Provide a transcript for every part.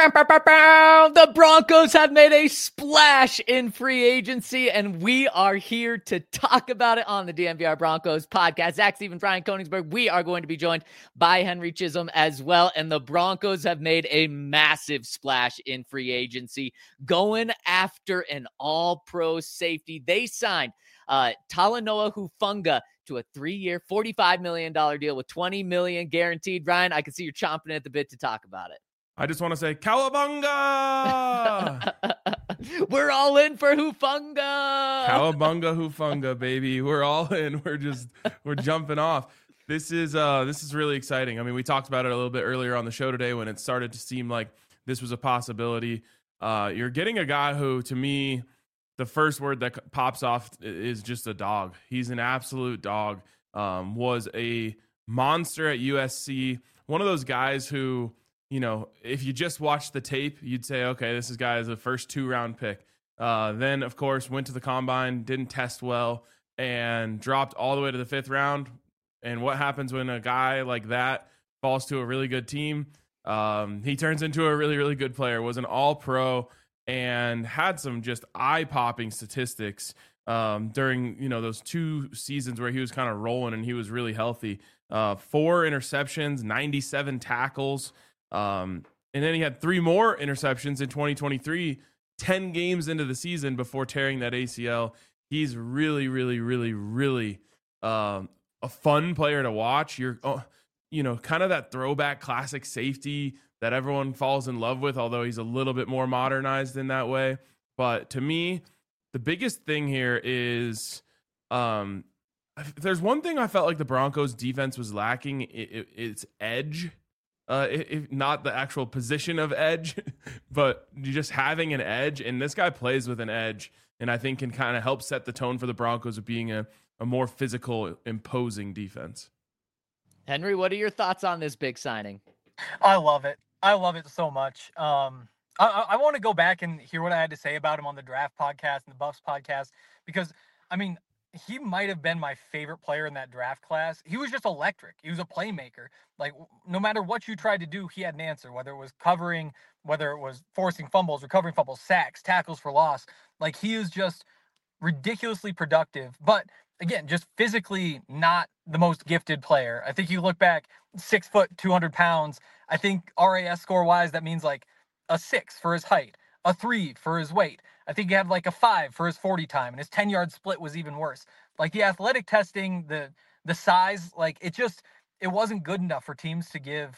The Broncos have made a splash in free agency, and we are here to talk about it on the DNVR Broncos podcast. Zach Stevens, Brian Koenigsberg. We are going to be joined by Henry Chisholm as well, and the Broncos have made a massive splash in free agency, going after an all-pro safety. They signed Talanoa Hufanga to a 3-year, $45 million deal with $20 million guaranteed. Ryan, I can see you're chomping at the bit to talk about it. I just want to say, Cowabunga! We're all in for Hufanga! Cowabunga, Hufanga, baby. We're all in. We're jumping off. This is really exciting. I mean, we talked about it a little bit earlier on the show today when it started to seem like this was a possibility. You're getting a guy who, to me, the first word that pops off is just a dog. He's an absolute dog. Was a monster at USC. One of those guys who, you know, if you just watch the tape, you'd say, okay, this guy is a first 2-round pick. Then, of course, went to the combine, didn't test well, and dropped all the way to the 5th round. And what happens when a guy like that falls to a really good team? He turns into a really, really good player, was an all-pro, and had some just eye-popping statistics during, you know, those 2 seasons where he was kind of rolling and he was really healthy. 4 interceptions, 97 tackles. And then he had 3 more interceptions in 2023, 10 games into the season before tearing that ACL. He's really, really, really, really a fun player to watch. You're, you know, kind of that throwback classic safety that everyone falls in love with, although he's a little bit more modernized in that way. But to me, the biggest thing here is if there's one thing I felt like the Broncos defense was lacking, it's edge. If not the actual position of edge, but just having an edge. And this guy plays with an edge, and I think can kind of help set the tone for the Broncos of being a more physical, imposing defense. Henry, what are your thoughts on this big signing? I love it. I love it so much. I want to go back and hear what I had to say about him on the Draft podcast and the Buffs podcast, because, I mean, he might have been my favorite player in that draft class. He was just electric. He was a playmaker. Like, no matter what you tried to do, he had an answer, whether it was covering, whether it was forcing fumbles, recovering fumbles, sacks, tackles for loss. Like, he is just ridiculously productive. But again, just physically not the most gifted player. I think you look back, 6 foot, 200 pounds. I think RAS score wise, that means like a 6 for his height, a 3 for his weight. I think he had like a 5 for his 40 time, and his 10-yard split was even worse. Like, the athletic testing, the size, like, it wasn't good enough for teams to give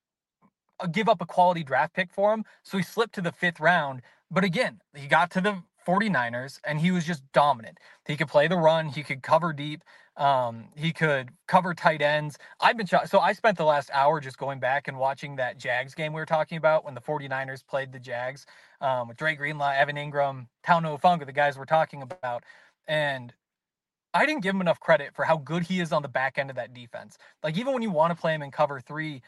up a quality draft pick for him. So he slipped to the 5th round. But again, he got to the 49ers and he was just dominant. He could play the run. He could cover deep. He could cover tight ends. I've been shocked. So I spent the last hour just going back and watching that Jags game we were talking about when the 49ers played the Jags, with Dre Greenlaw, Evan Ingram, Talanoa Hufanga, the guys we're talking about. And I didn't give him enough credit for how good he is on the back end of that defense. Like, even when you want to play him in cover 3,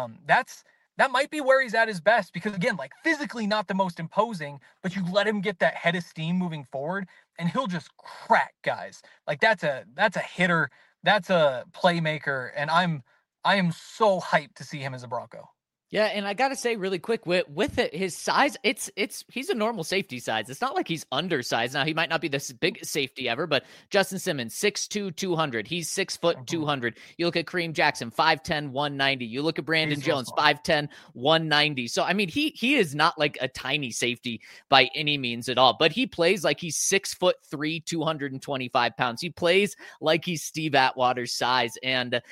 that might be where he's at his best, because again, like, physically not the most imposing, but you let him get that head of steam moving forward and he'll just crack guys. Like, that's a hitter, that's a playmaker, and I am so hyped to see him as a Bronco. Yeah, and I got to say really quick, with it, his size, he's a normal safety size. It's not like he's undersized. Now, he might not be the biggest safety ever, but Justin Simmons, 6'2", 200. He's 6 foot, 200. You look at Kareem Jackson, 5'10", 190. You look at Brandon Jones, 5'10", 190. So, I mean, he is not like a tiny safety by any means at all, but he plays like he's 6'3", 225 pounds. He plays like he's Steve Atwater's size, and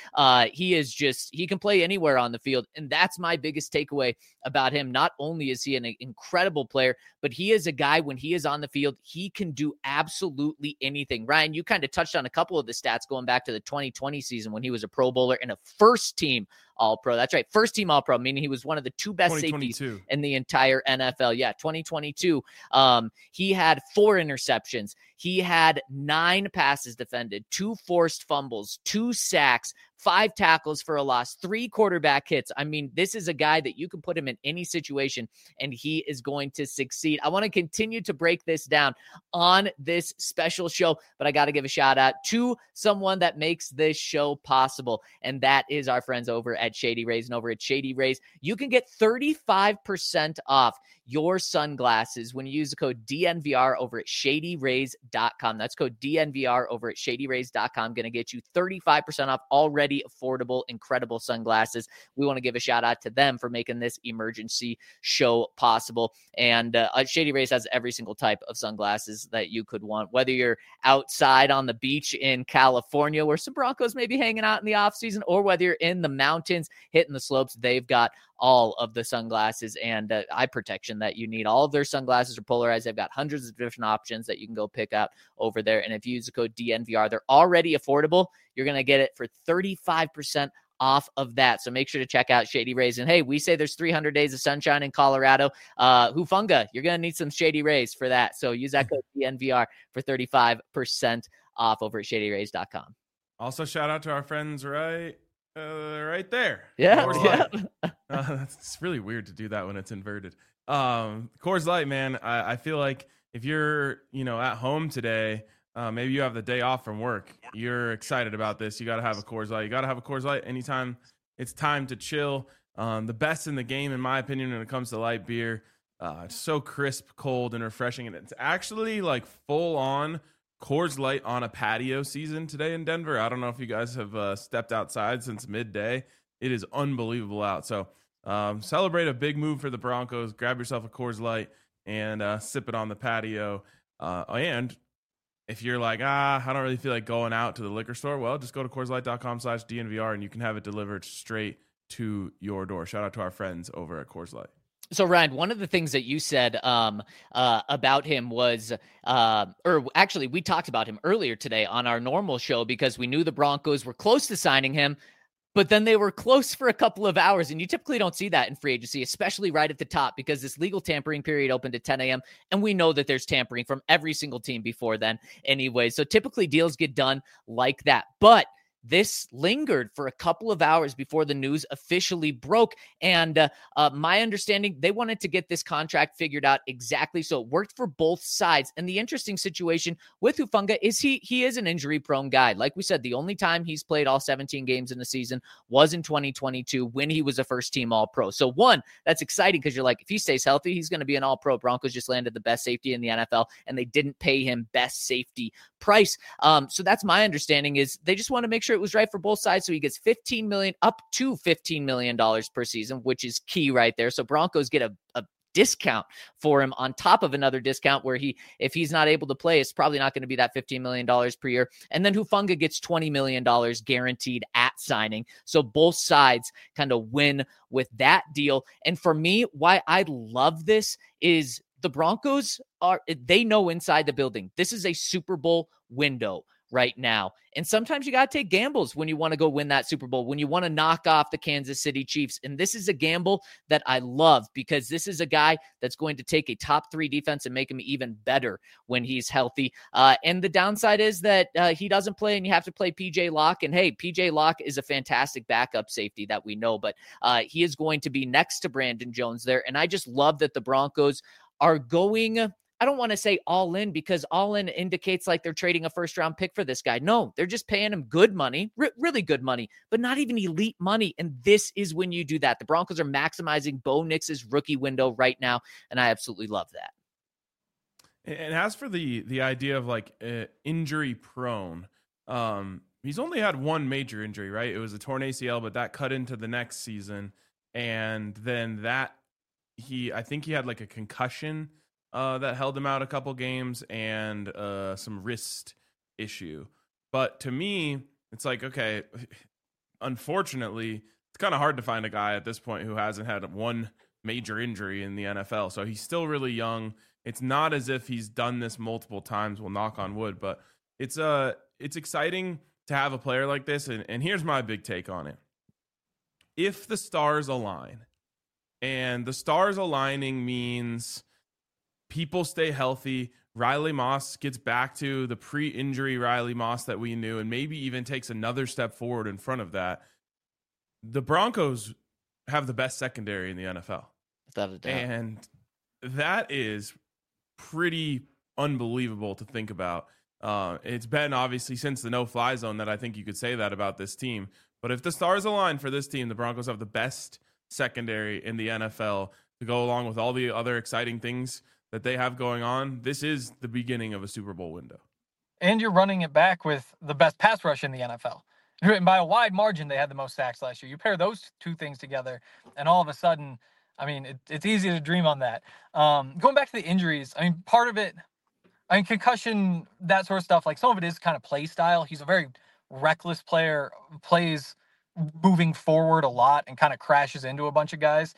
he can play anywhere on the field, and that's my biggest takeaway about him. Not only is he an incredible player, but he is a guy, when he is on the field, he can do absolutely anything. Ryan, you kind of touched on a couple of the stats going back to the 2020 season when he was a Pro Bowler and a first-team All-Pro. That's right, first-team All-Pro, meaning he was one of the 2 best safeties in the entire NFL. Yeah, 2022. He had 4 interceptions. He had 9 passes defended, 2 forced fumbles, 2 sacks, 5 tackles for a loss, 3 quarterback hits. I mean, this is a guy that you can put him in any situation and he is going to succeed. I want to continue to break this down on this special show, but I got to give a shout out to someone that makes this show possible, and that is our friends over at Shady Rays. And over at Shady Rays, you can get 35% off your sunglasses when you use the code DNVR over at shadyrays.com. That's code DNVR over at shadyrays.com. Going to get you 35% off already affordable, incredible sunglasses. We want to give a shout out to them for making this emergency show possible. And Shady Rays has every single type of sunglasses that you could want, whether you're outside on the beach in California where some Broncos may be hanging out in the offseason, or whether you're in the mountains hitting the slopes. They've got all of the sunglasses and eye protection that you need. All of their sunglasses are polarized. They've got hundreds of different options that you can go pick out over there. And if you use the code DNVR, they're already affordable. You're going to get it for 35% off of that. So make sure to check out Shady Rays. And hey, we say there's 300 days of sunshine in Colorado. Hufanga, you're going to need some Shady Rays for that. So use that code DNVR for 35% off over at shadyrays.com. Also, shout out to our friends right there. Yeah. It's really weird to do that when it's inverted. Coors Light, man. I feel like if you're, at home today, maybe you have the day off from work, you're excited about this. You got to have a Coors Light. You got to have a Coors Light anytime it's time to chill. The best in the game, in my opinion, when it comes to light beer. It's so crisp, cold, and refreshing. And it's actually like full on Coors Light on a patio season today in Denver. I don't know if you guys have stepped outside since midday. It is unbelievable out. So celebrate a big move for the Broncos. Grab yourself a Coors Light and sip it on the patio. And if you're like, I don't really feel like going out to the liquor store, well, just go to CoorsLight.com/DNVR and you can have it delivered straight to your door. Shout out to our friends over at Coors Light. So, Ryan, one of the things that you said about him was, or actually we talked about him earlier today on our normal show because we knew the Broncos were close to signing him, but then they were close for a couple of hours. And you typically don't see that in free agency, especially right at the top, because this legal tampering period opened at 10 a.m. And we know that there's tampering from every single team before then anyway. So typically deals get done like that. But this lingered for a couple of hours before the news officially broke. And my understanding, they wanted to get this contract figured out exactly so it worked for both sides. And the interesting situation with Hufanga is he is an injury-prone guy. Like we said, the only time he's played all 17 games in the season was in 2022 when he was a first-team All-Pro. So one, that's exciting because you're like, if he stays healthy, he's going to be an All-Pro. Broncos just landed the best safety in the NFL, and they didn't pay him best safety price. So that's my understanding is they just want to make sure it was right for both sides. So he gets $15 million up to $15 million per season, which is key right there. So Broncos get a discount for him on top of another discount where if he's not able to play, it's probably not going to be that $15 million per year. And then Hufanga gets $20 million guaranteed at signing. So both sides kind of win with that deal. And for me, why I love this is the Broncos they know inside the building, this is a Super Bowl window right now. And sometimes you got to take gambles when you want to go win that Super Bowl, when you want to knock off the Kansas City Chiefs. And this is a gamble that I love because this is a guy that's going to take a top 3 defense and make him even better when he's healthy. And the downside is that he doesn't play and you have to play PJ Locke. And hey, PJ Locke is a fantastic backup safety that we know, but he is going to be next to Brandon Jones there. And I just love that the Broncos are going, I don't want to say all in because all in indicates like they're trading a first round pick for this guy. No, they're just paying him good money, really good money, but not even elite money. And this is when you do that. The Broncos are maximizing Bo Nix's rookie window right now. And I absolutely love that. And as for the idea of like injury prone, he's only had one major injury, right? It was a torn ACL, but that cut into the next season. And then I think he had like a concussion that held him out a couple games and some wrist issue. But to me, it's like, okay, unfortunately, it's kind of hard to find a guy at this point who hasn't had one major injury in the NFL. So he's still really young. It's not as if he's done this multiple times. We'll knock on wood, but it's exciting to have a player like this. And here's my big take on it. If the stars align, and the stars aligning means people stay healthy, Riley Moss gets back to the pre-injury Riley Moss that we knew, and maybe even takes another step forward in front of that, the Broncos have the best secondary in the NFL. Without a doubt. And that is pretty unbelievable to think about. It's been obviously since the no-fly zone that I think you could say that about this team. But if the stars align for this team, the Broncos have the best secondary in the NFL to go along with all the other exciting things that they have going on. This is the beginning of a Super Bowl window. And you're running it back with the best pass rush in the NFL. And by a wide margin, they had the most sacks last year. You pair those two things together, and all of a sudden, I mean, it's easy to dream on that. Going back to the injuries, I mean, part of it, I mean, concussion, that sort of stuff, like some of it is kind of play style. He's a very reckless player, plays moving forward a lot and kind of crashes into a bunch of guys.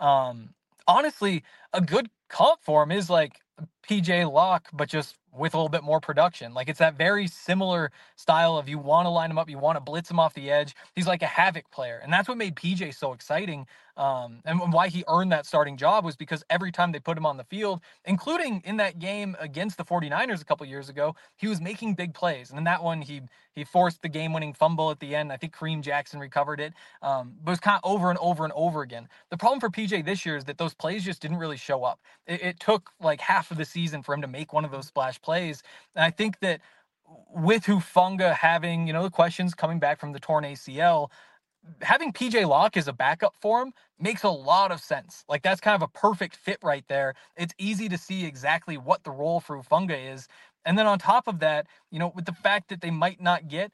Honestly, a good comp for him is like PJ Locke, but just with a little bit more production. Like, it's that very similar style of, you want to line him up, you want to blitz him off the edge. He's like a havoc player, and that's what made PJ so exciting. And why he earned that starting job was because every time they put him on the field, including in that game against the 49ers a couple years ago, he was making big plays. And in that one, he forced the game-winning fumble at the end. I think Kareem Jackson recovered it. But it was kind of over and over and over again. The problem for PJ this year is that those plays just didn't really show up. It took like half of the season for him to make one of those splash plays. And I think that with Hufanga having, the questions coming back from the torn ACL, having PJ Locke as a backup for him makes a lot of sense. Like, that's kind of a perfect fit right there. It's easy to see exactly what the role for Hufanga is. And then on top of that, with the fact that they might not get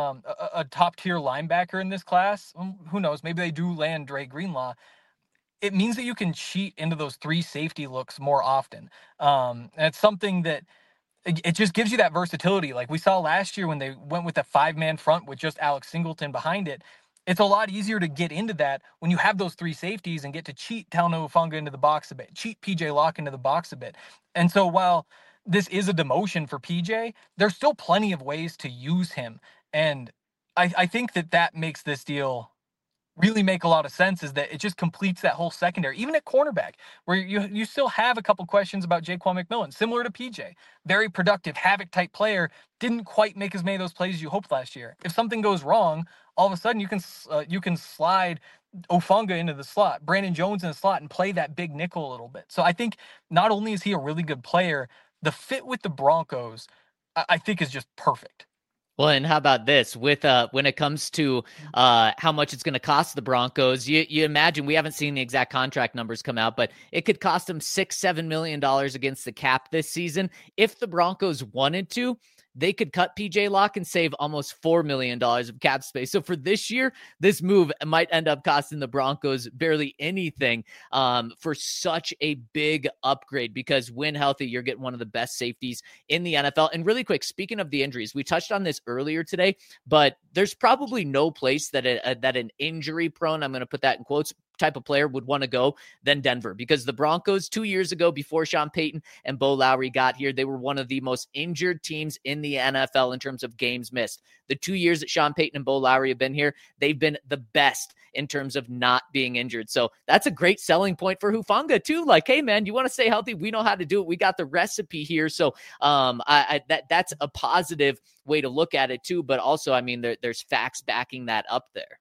a top tier linebacker in this class, who knows, maybe they do land Dre Greenlaw. It means that you can cheat into those 3 safety looks more often. And it's something that it just gives you that versatility. Like we saw last year when they went with a 5-man front with just Alex Singleton behind it. It's a lot easier to get into that when you have those 3 safeties and get to cheat Talanoa Hufanga into the box a bit, cheat PJ Locke into the box a bit. And so while this is a demotion for PJ, there's still plenty of ways to use him. And I think that makes this deal really make a lot of sense, is that it just completes that whole secondary, even at cornerback, where you still have a couple questions about Jaquan McMillan, similar to PJ. Very productive, havoc-type player, didn't quite make as many of those plays as you hoped last year. If something goes wrong, all of a sudden you can slide Hufanga into the slot, Brandon Jones in the slot, and play that big nickel a little bit. So I think not only is he a really good player, the fit with the Broncos, I think, is just perfect. Well, and how about this? With when it comes to how much it's going to cost the Broncos, you imagine, we haven't seen the exact contract numbers come out, but it could cost them $6-7 million against the cap this season. If the Broncos wanted to, they could cut PJ Locke and save almost $4 million of cap space. So for this year, this move might end up costing the Broncos barely anything for such a big upgrade, because when healthy, you're getting one of the best safeties in the NFL. And really quick, speaking of the injuries, we touched on this earlier today, but there's probably no place that an injury prone, I'm going to put that in quotes, type of player would want to go than Denver, because the Broncos 2 years ago, before Sean Payton and Bo Lowry got here, they were one of the most injured teams in the NFL in terms of games missed. The 2 years that Sean Payton and Bo Lowry have been here, they've been the best in terms of not being injured. So that's a great selling point for Hufanga too. Like, hey man, you want to stay healthy? We know how to do it. We got the recipe here. So that's a positive way to look at it too. But also, I mean, there's facts backing that up there.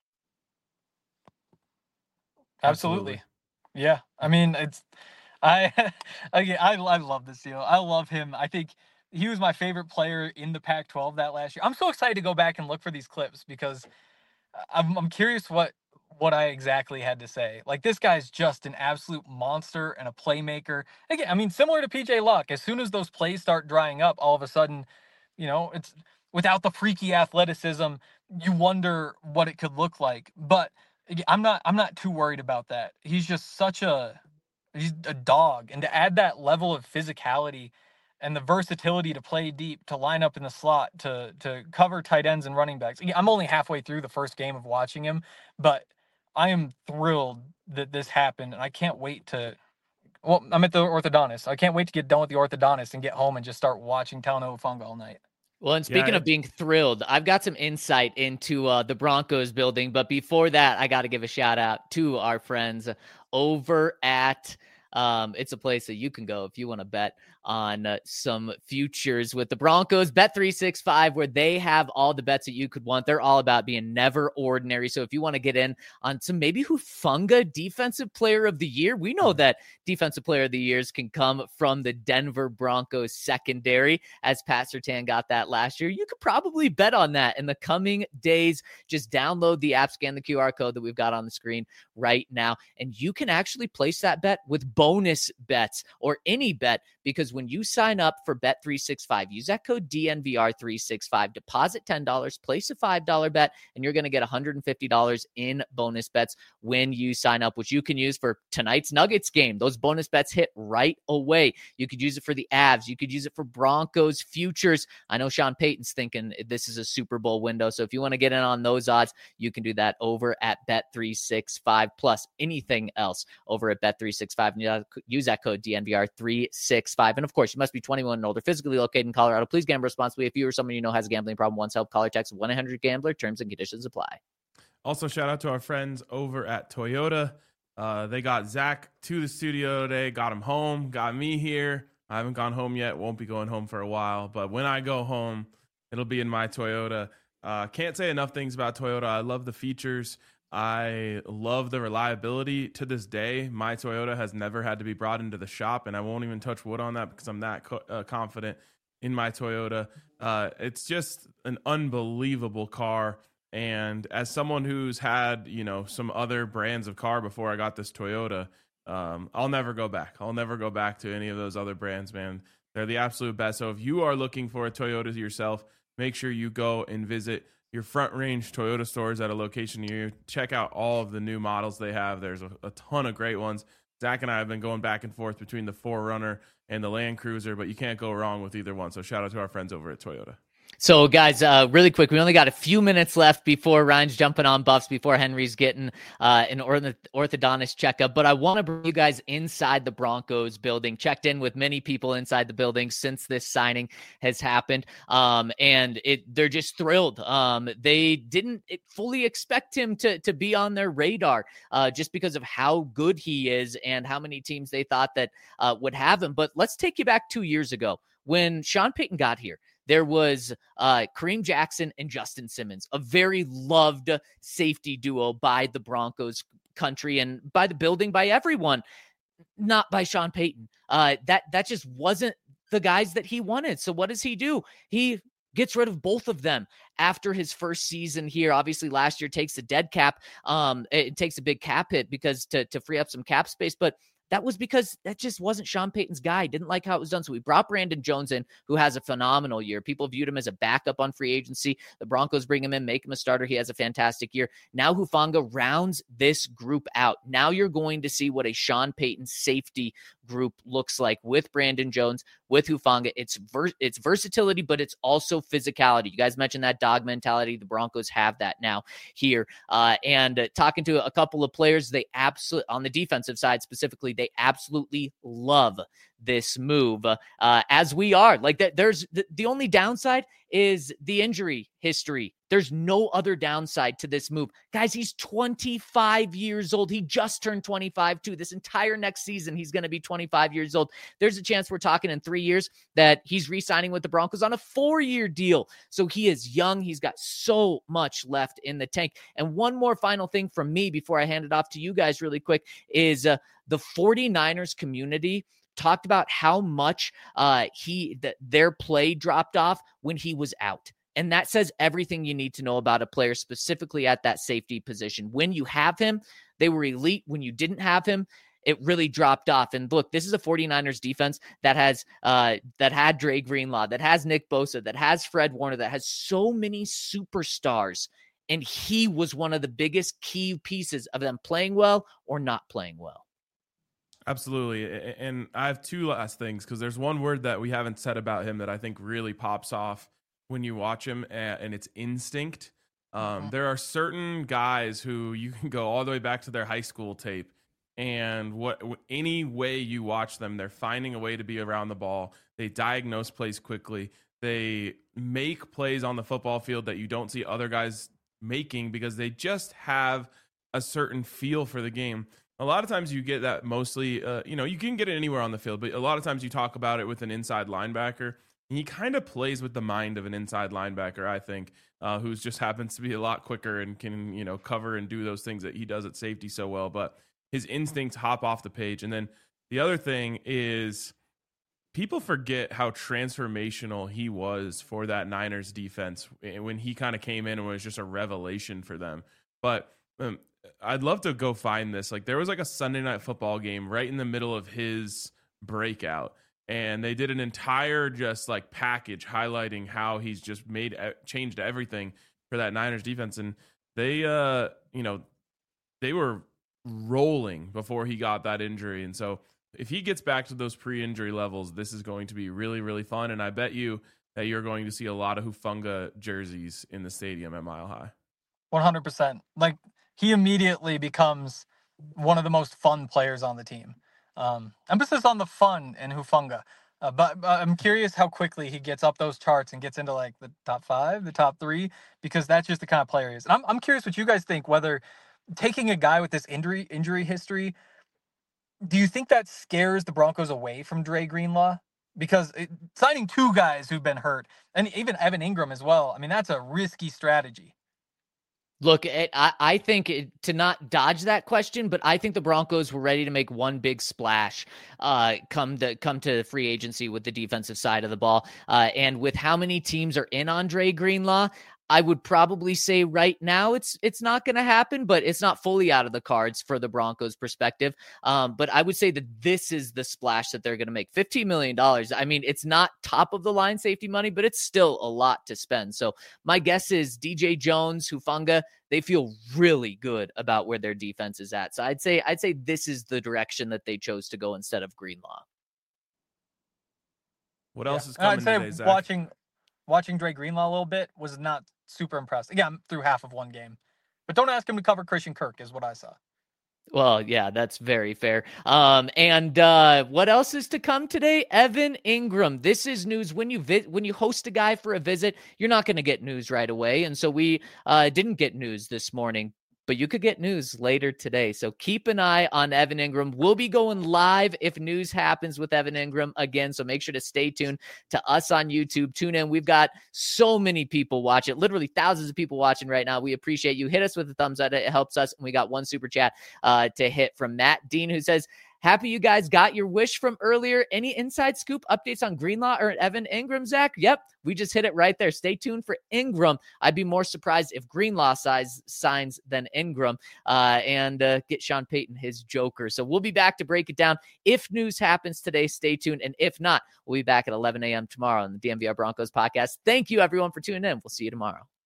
Absolutely. Yeah. I mean, I love this deal. I love him. I think he was my favorite player in the Pac-12 that last year. I'm so excited to go back and look for these clips, because I'm curious what I exactly had to say. Like, this guy's just an absolute monster and a playmaker. Again, I mean, similar to PJ Locke, as soon as those plays start drying up, all of a sudden, it's without the freaky athleticism, you wonder what it could look like. But I'm not too worried about that. He's just he's a dog. And to add that level of physicality and the versatility to play deep, to line up in the slot, to cover tight ends and running backs. I'm only halfway through the first game of watching him, but I am thrilled that this happened. And I can't wait I'm at the orthodontist. I can't wait to get done with the orthodontist and get home and just start watching Talanoa Hufanga all night. Well, and speaking of being thrilled, I've got some insight into the Broncos building. But before that, I got to give a shout out to our friends over at it's a place that you can go if you want to bet on some futures with the Broncos. Bet365, where they have all the bets that you could want. They're all about being never ordinary. So if you want to get in on some maybe Hufanga Defensive Player of the Year, we know that Defensive Player of the Years can come from the Denver Broncos secondary, as Pat Surtain got that last year. You could probably bet on that in the coming days. Just download the app, scan the QR code that we've got on the screen right now, and you can actually place that bet with bonus bets or any bet, because when you sign up for Bet365, use that code DNVR365, deposit $10, place a $5 bet, and you're going to get $150 in bonus bets when you sign up, which you can use for tonight's Nuggets game. Those bonus bets hit right away. You could use it for the Avs. You could use it for Broncos futures. I know Sean Payton's thinking this is a Super Bowl window, so if you want to get in on those odds, you can do that over at Bet365, plus anything else over at Bet365. And use that code DNVR365. And of course, you must be 21 and older, physically located in Colorado. Please gamble responsibly. If you or someone you know has a gambling problem, once help, call or text 1-800-GAMBLER. Terms and conditions apply. Also, shout out to our friends over at Toyota. They got Zach to the studio today, got him home, got me here. I haven't gone home yet. Won't be going home for a while. But when I go home, it'll be in my Toyota. Can't say enough things about Toyota. I love the features. I love the reliability. To this day, my Toyota has never had to be brought into the shop, and I won't even touch wood on that because I'm that confident in my Toyota. It's just an unbelievable car. And as someone who's had, some other brands of car before I got this Toyota, I'll never go back. I'll never go back to any of those other brands, man. They're the absolute best. So if you are looking for a Toyota yourself, make sure you go and visit your Front Range Toyota stores at a location near you. Check out all of the new models they have. There's a ton of great ones. Zach and I have been going back and forth between the 4Runner and the Land Cruiser, but you can't go wrong with either one. So shout out to our friends over at Toyota. So, guys, really quick, we only got a few minutes left before Ryan's jumping on Buffs, before Henry's getting an orthodontist checkup. But I want to bring you guys inside the Broncos building. Checked in with many people inside the building since this signing has happened, and they're just thrilled. They didn't fully expect him to be on their radar just because of how good he is and how many teams they thought that would have him. But let's take you back 2 years ago when Sean Payton got here. There was Kareem Jackson and Justin Simmons, a very loved safety duo by the Broncos country and by the building, by everyone, not by Sean Payton. That just wasn't the guys that he wanted. So what does he do? He gets rid of both of them after his first season here. Obviously, last year takes a dead cap. It takes a big cap hit because to free up some cap space, but that was because that just wasn't Sean Payton's guy. Didn't like how it was done. So we brought Brandon Jones in, who has a phenomenal year. People viewed him as a backup on free agency. The Broncos bring him in, make him a starter. He has a fantastic year. Now Hufanga rounds this group out. Now you're going to see what a Sean Payton safety group looks like with Brandon Jones, with Hufanga. It's versatility, but it's also physicality. You guys mentioned that dog mentality. The Broncos have that now here. And talking to a couple of players, they absolutely, on the defensive side specifically, they absolutely love this move, as we are. Like that, there's the only downside is the injury history. There's no other downside to this move. Guys, he's 25 years old. He just turned 25 too. This entire next season, he's going to be 25 years old. There's a chance we're talking in 3 years that he's re-signing with the Broncos on a 4-year deal. So he is young. He's got so much left in the tank. And one more final thing from me before I hand it off to you guys really quick is the 49ers community talked about how much their play dropped off when he was out. And that says everything you need to know about a player, specifically at that safety position. When you have him, they were elite. When you didn't have him, it really dropped off. And look, this is a 49ers defense that has that had Dre Greenlaw, that has Nick Bosa, that has Fred Warner, that has so many superstars. And he was one of the biggest key pieces of them playing well or not playing well. Absolutely. And I have two last things, because there's one word that we haven't said about him that I think really pops off when you watch him, and it's instinct. There are certain guys who you can go all the way back to their high school tape, and any way you watch them, they're finding a way to be around the ball. They diagnose plays quickly. They make plays on the football field that you don't see other guys making because they just have a certain feel for the game. a lot of times you get that mostly, you can get it anywhere on the field, but a lot of times you talk about it with an inside linebacker. And he kind of plays with the mind of an inside linebacker, I think, who's just happens to be a lot quicker and can, cover and do those things that he does at safety so well. But his instincts hop off the page. And then the other thing is people forget how transformational he was for that Niners defense when he kind of came in and was just a revelation for them. But I'd love to go find this. Like, there was like a Sunday Night Football game right in the middle of his breakout, and they did an entire just like package highlighting how he's just changed everything for that Niners defense. And they were rolling before he got that injury. And so if he gets back to those pre-injury levels, this is going to be really, really fun. And I bet you that you're going to see a lot of Hufanga jerseys in the stadium at Mile High. 100%. Like, he immediately becomes one of the most fun players on the team. Emphasis on the fun in Hufanga. But I'm curious how quickly he gets up those charts and gets into like the top 5, the top 3, because that's just the kind of player he is. And I'm curious what you guys think, whether taking a guy with this injury history, do you think that scares the Broncos away from Dre Greenlaw? Because signing 2 guys who've been hurt, and even Evan Ingram as well, I mean, that's a risky strategy. Look, I think to not dodge that question, but I think the Broncos were ready to make one big splash come to free agency with the defensive side of the ball. And with how many teams are in on Dre Greenlaw, I would probably say right now it's not going to happen, but it's not fully out of the cards for the Broncos perspective. But I would say that this is the splash that they're going to make. $15 million. I mean, it's not top of the line safety money, but it's still a lot to spend. So my guess is DJ Jones, Hufanga, they feel really good about where their defense is at. So I'd say this is the direction that they chose to go instead of Greenlaw. What else is coming today, Zach? Watching Dre Greenlaw a little bit was not super impressed. Again, I'm through half of one game. But don't ask him to cover Christian Kirk is what I saw. Well, yeah, that's very fair. And what else is to come today? Evan Ingram. This is news. When you host a guy for a visit, you're not going to get news right away. And so we didn't get news this morning, but you could get news later today. So keep an eye on Evan Ingram. We'll be going live if news happens with Evan Ingram again. So make sure to stay tuned to us on YouTube. Tune in. We've got so many people watching, literally thousands of people watching right now. We appreciate you. Hit us with a thumbs up. It helps us. And we got one super chat to hit from Matt Dean, who says, happy you guys got your wish from earlier. Any inside scoop updates on Greenlaw or Evan Ingram, Zach? Yep, we just hit it right there. Stay tuned for Ingram. I'd be more surprised if Greenlaw signs than Ingram and get Sean Payton his joker. So we'll be back to break it down. If news happens today, stay tuned. And if not, we'll be back at 11 a.m. tomorrow on the DNVR Broncos podcast. Thank you, everyone, for tuning in. We'll see you tomorrow.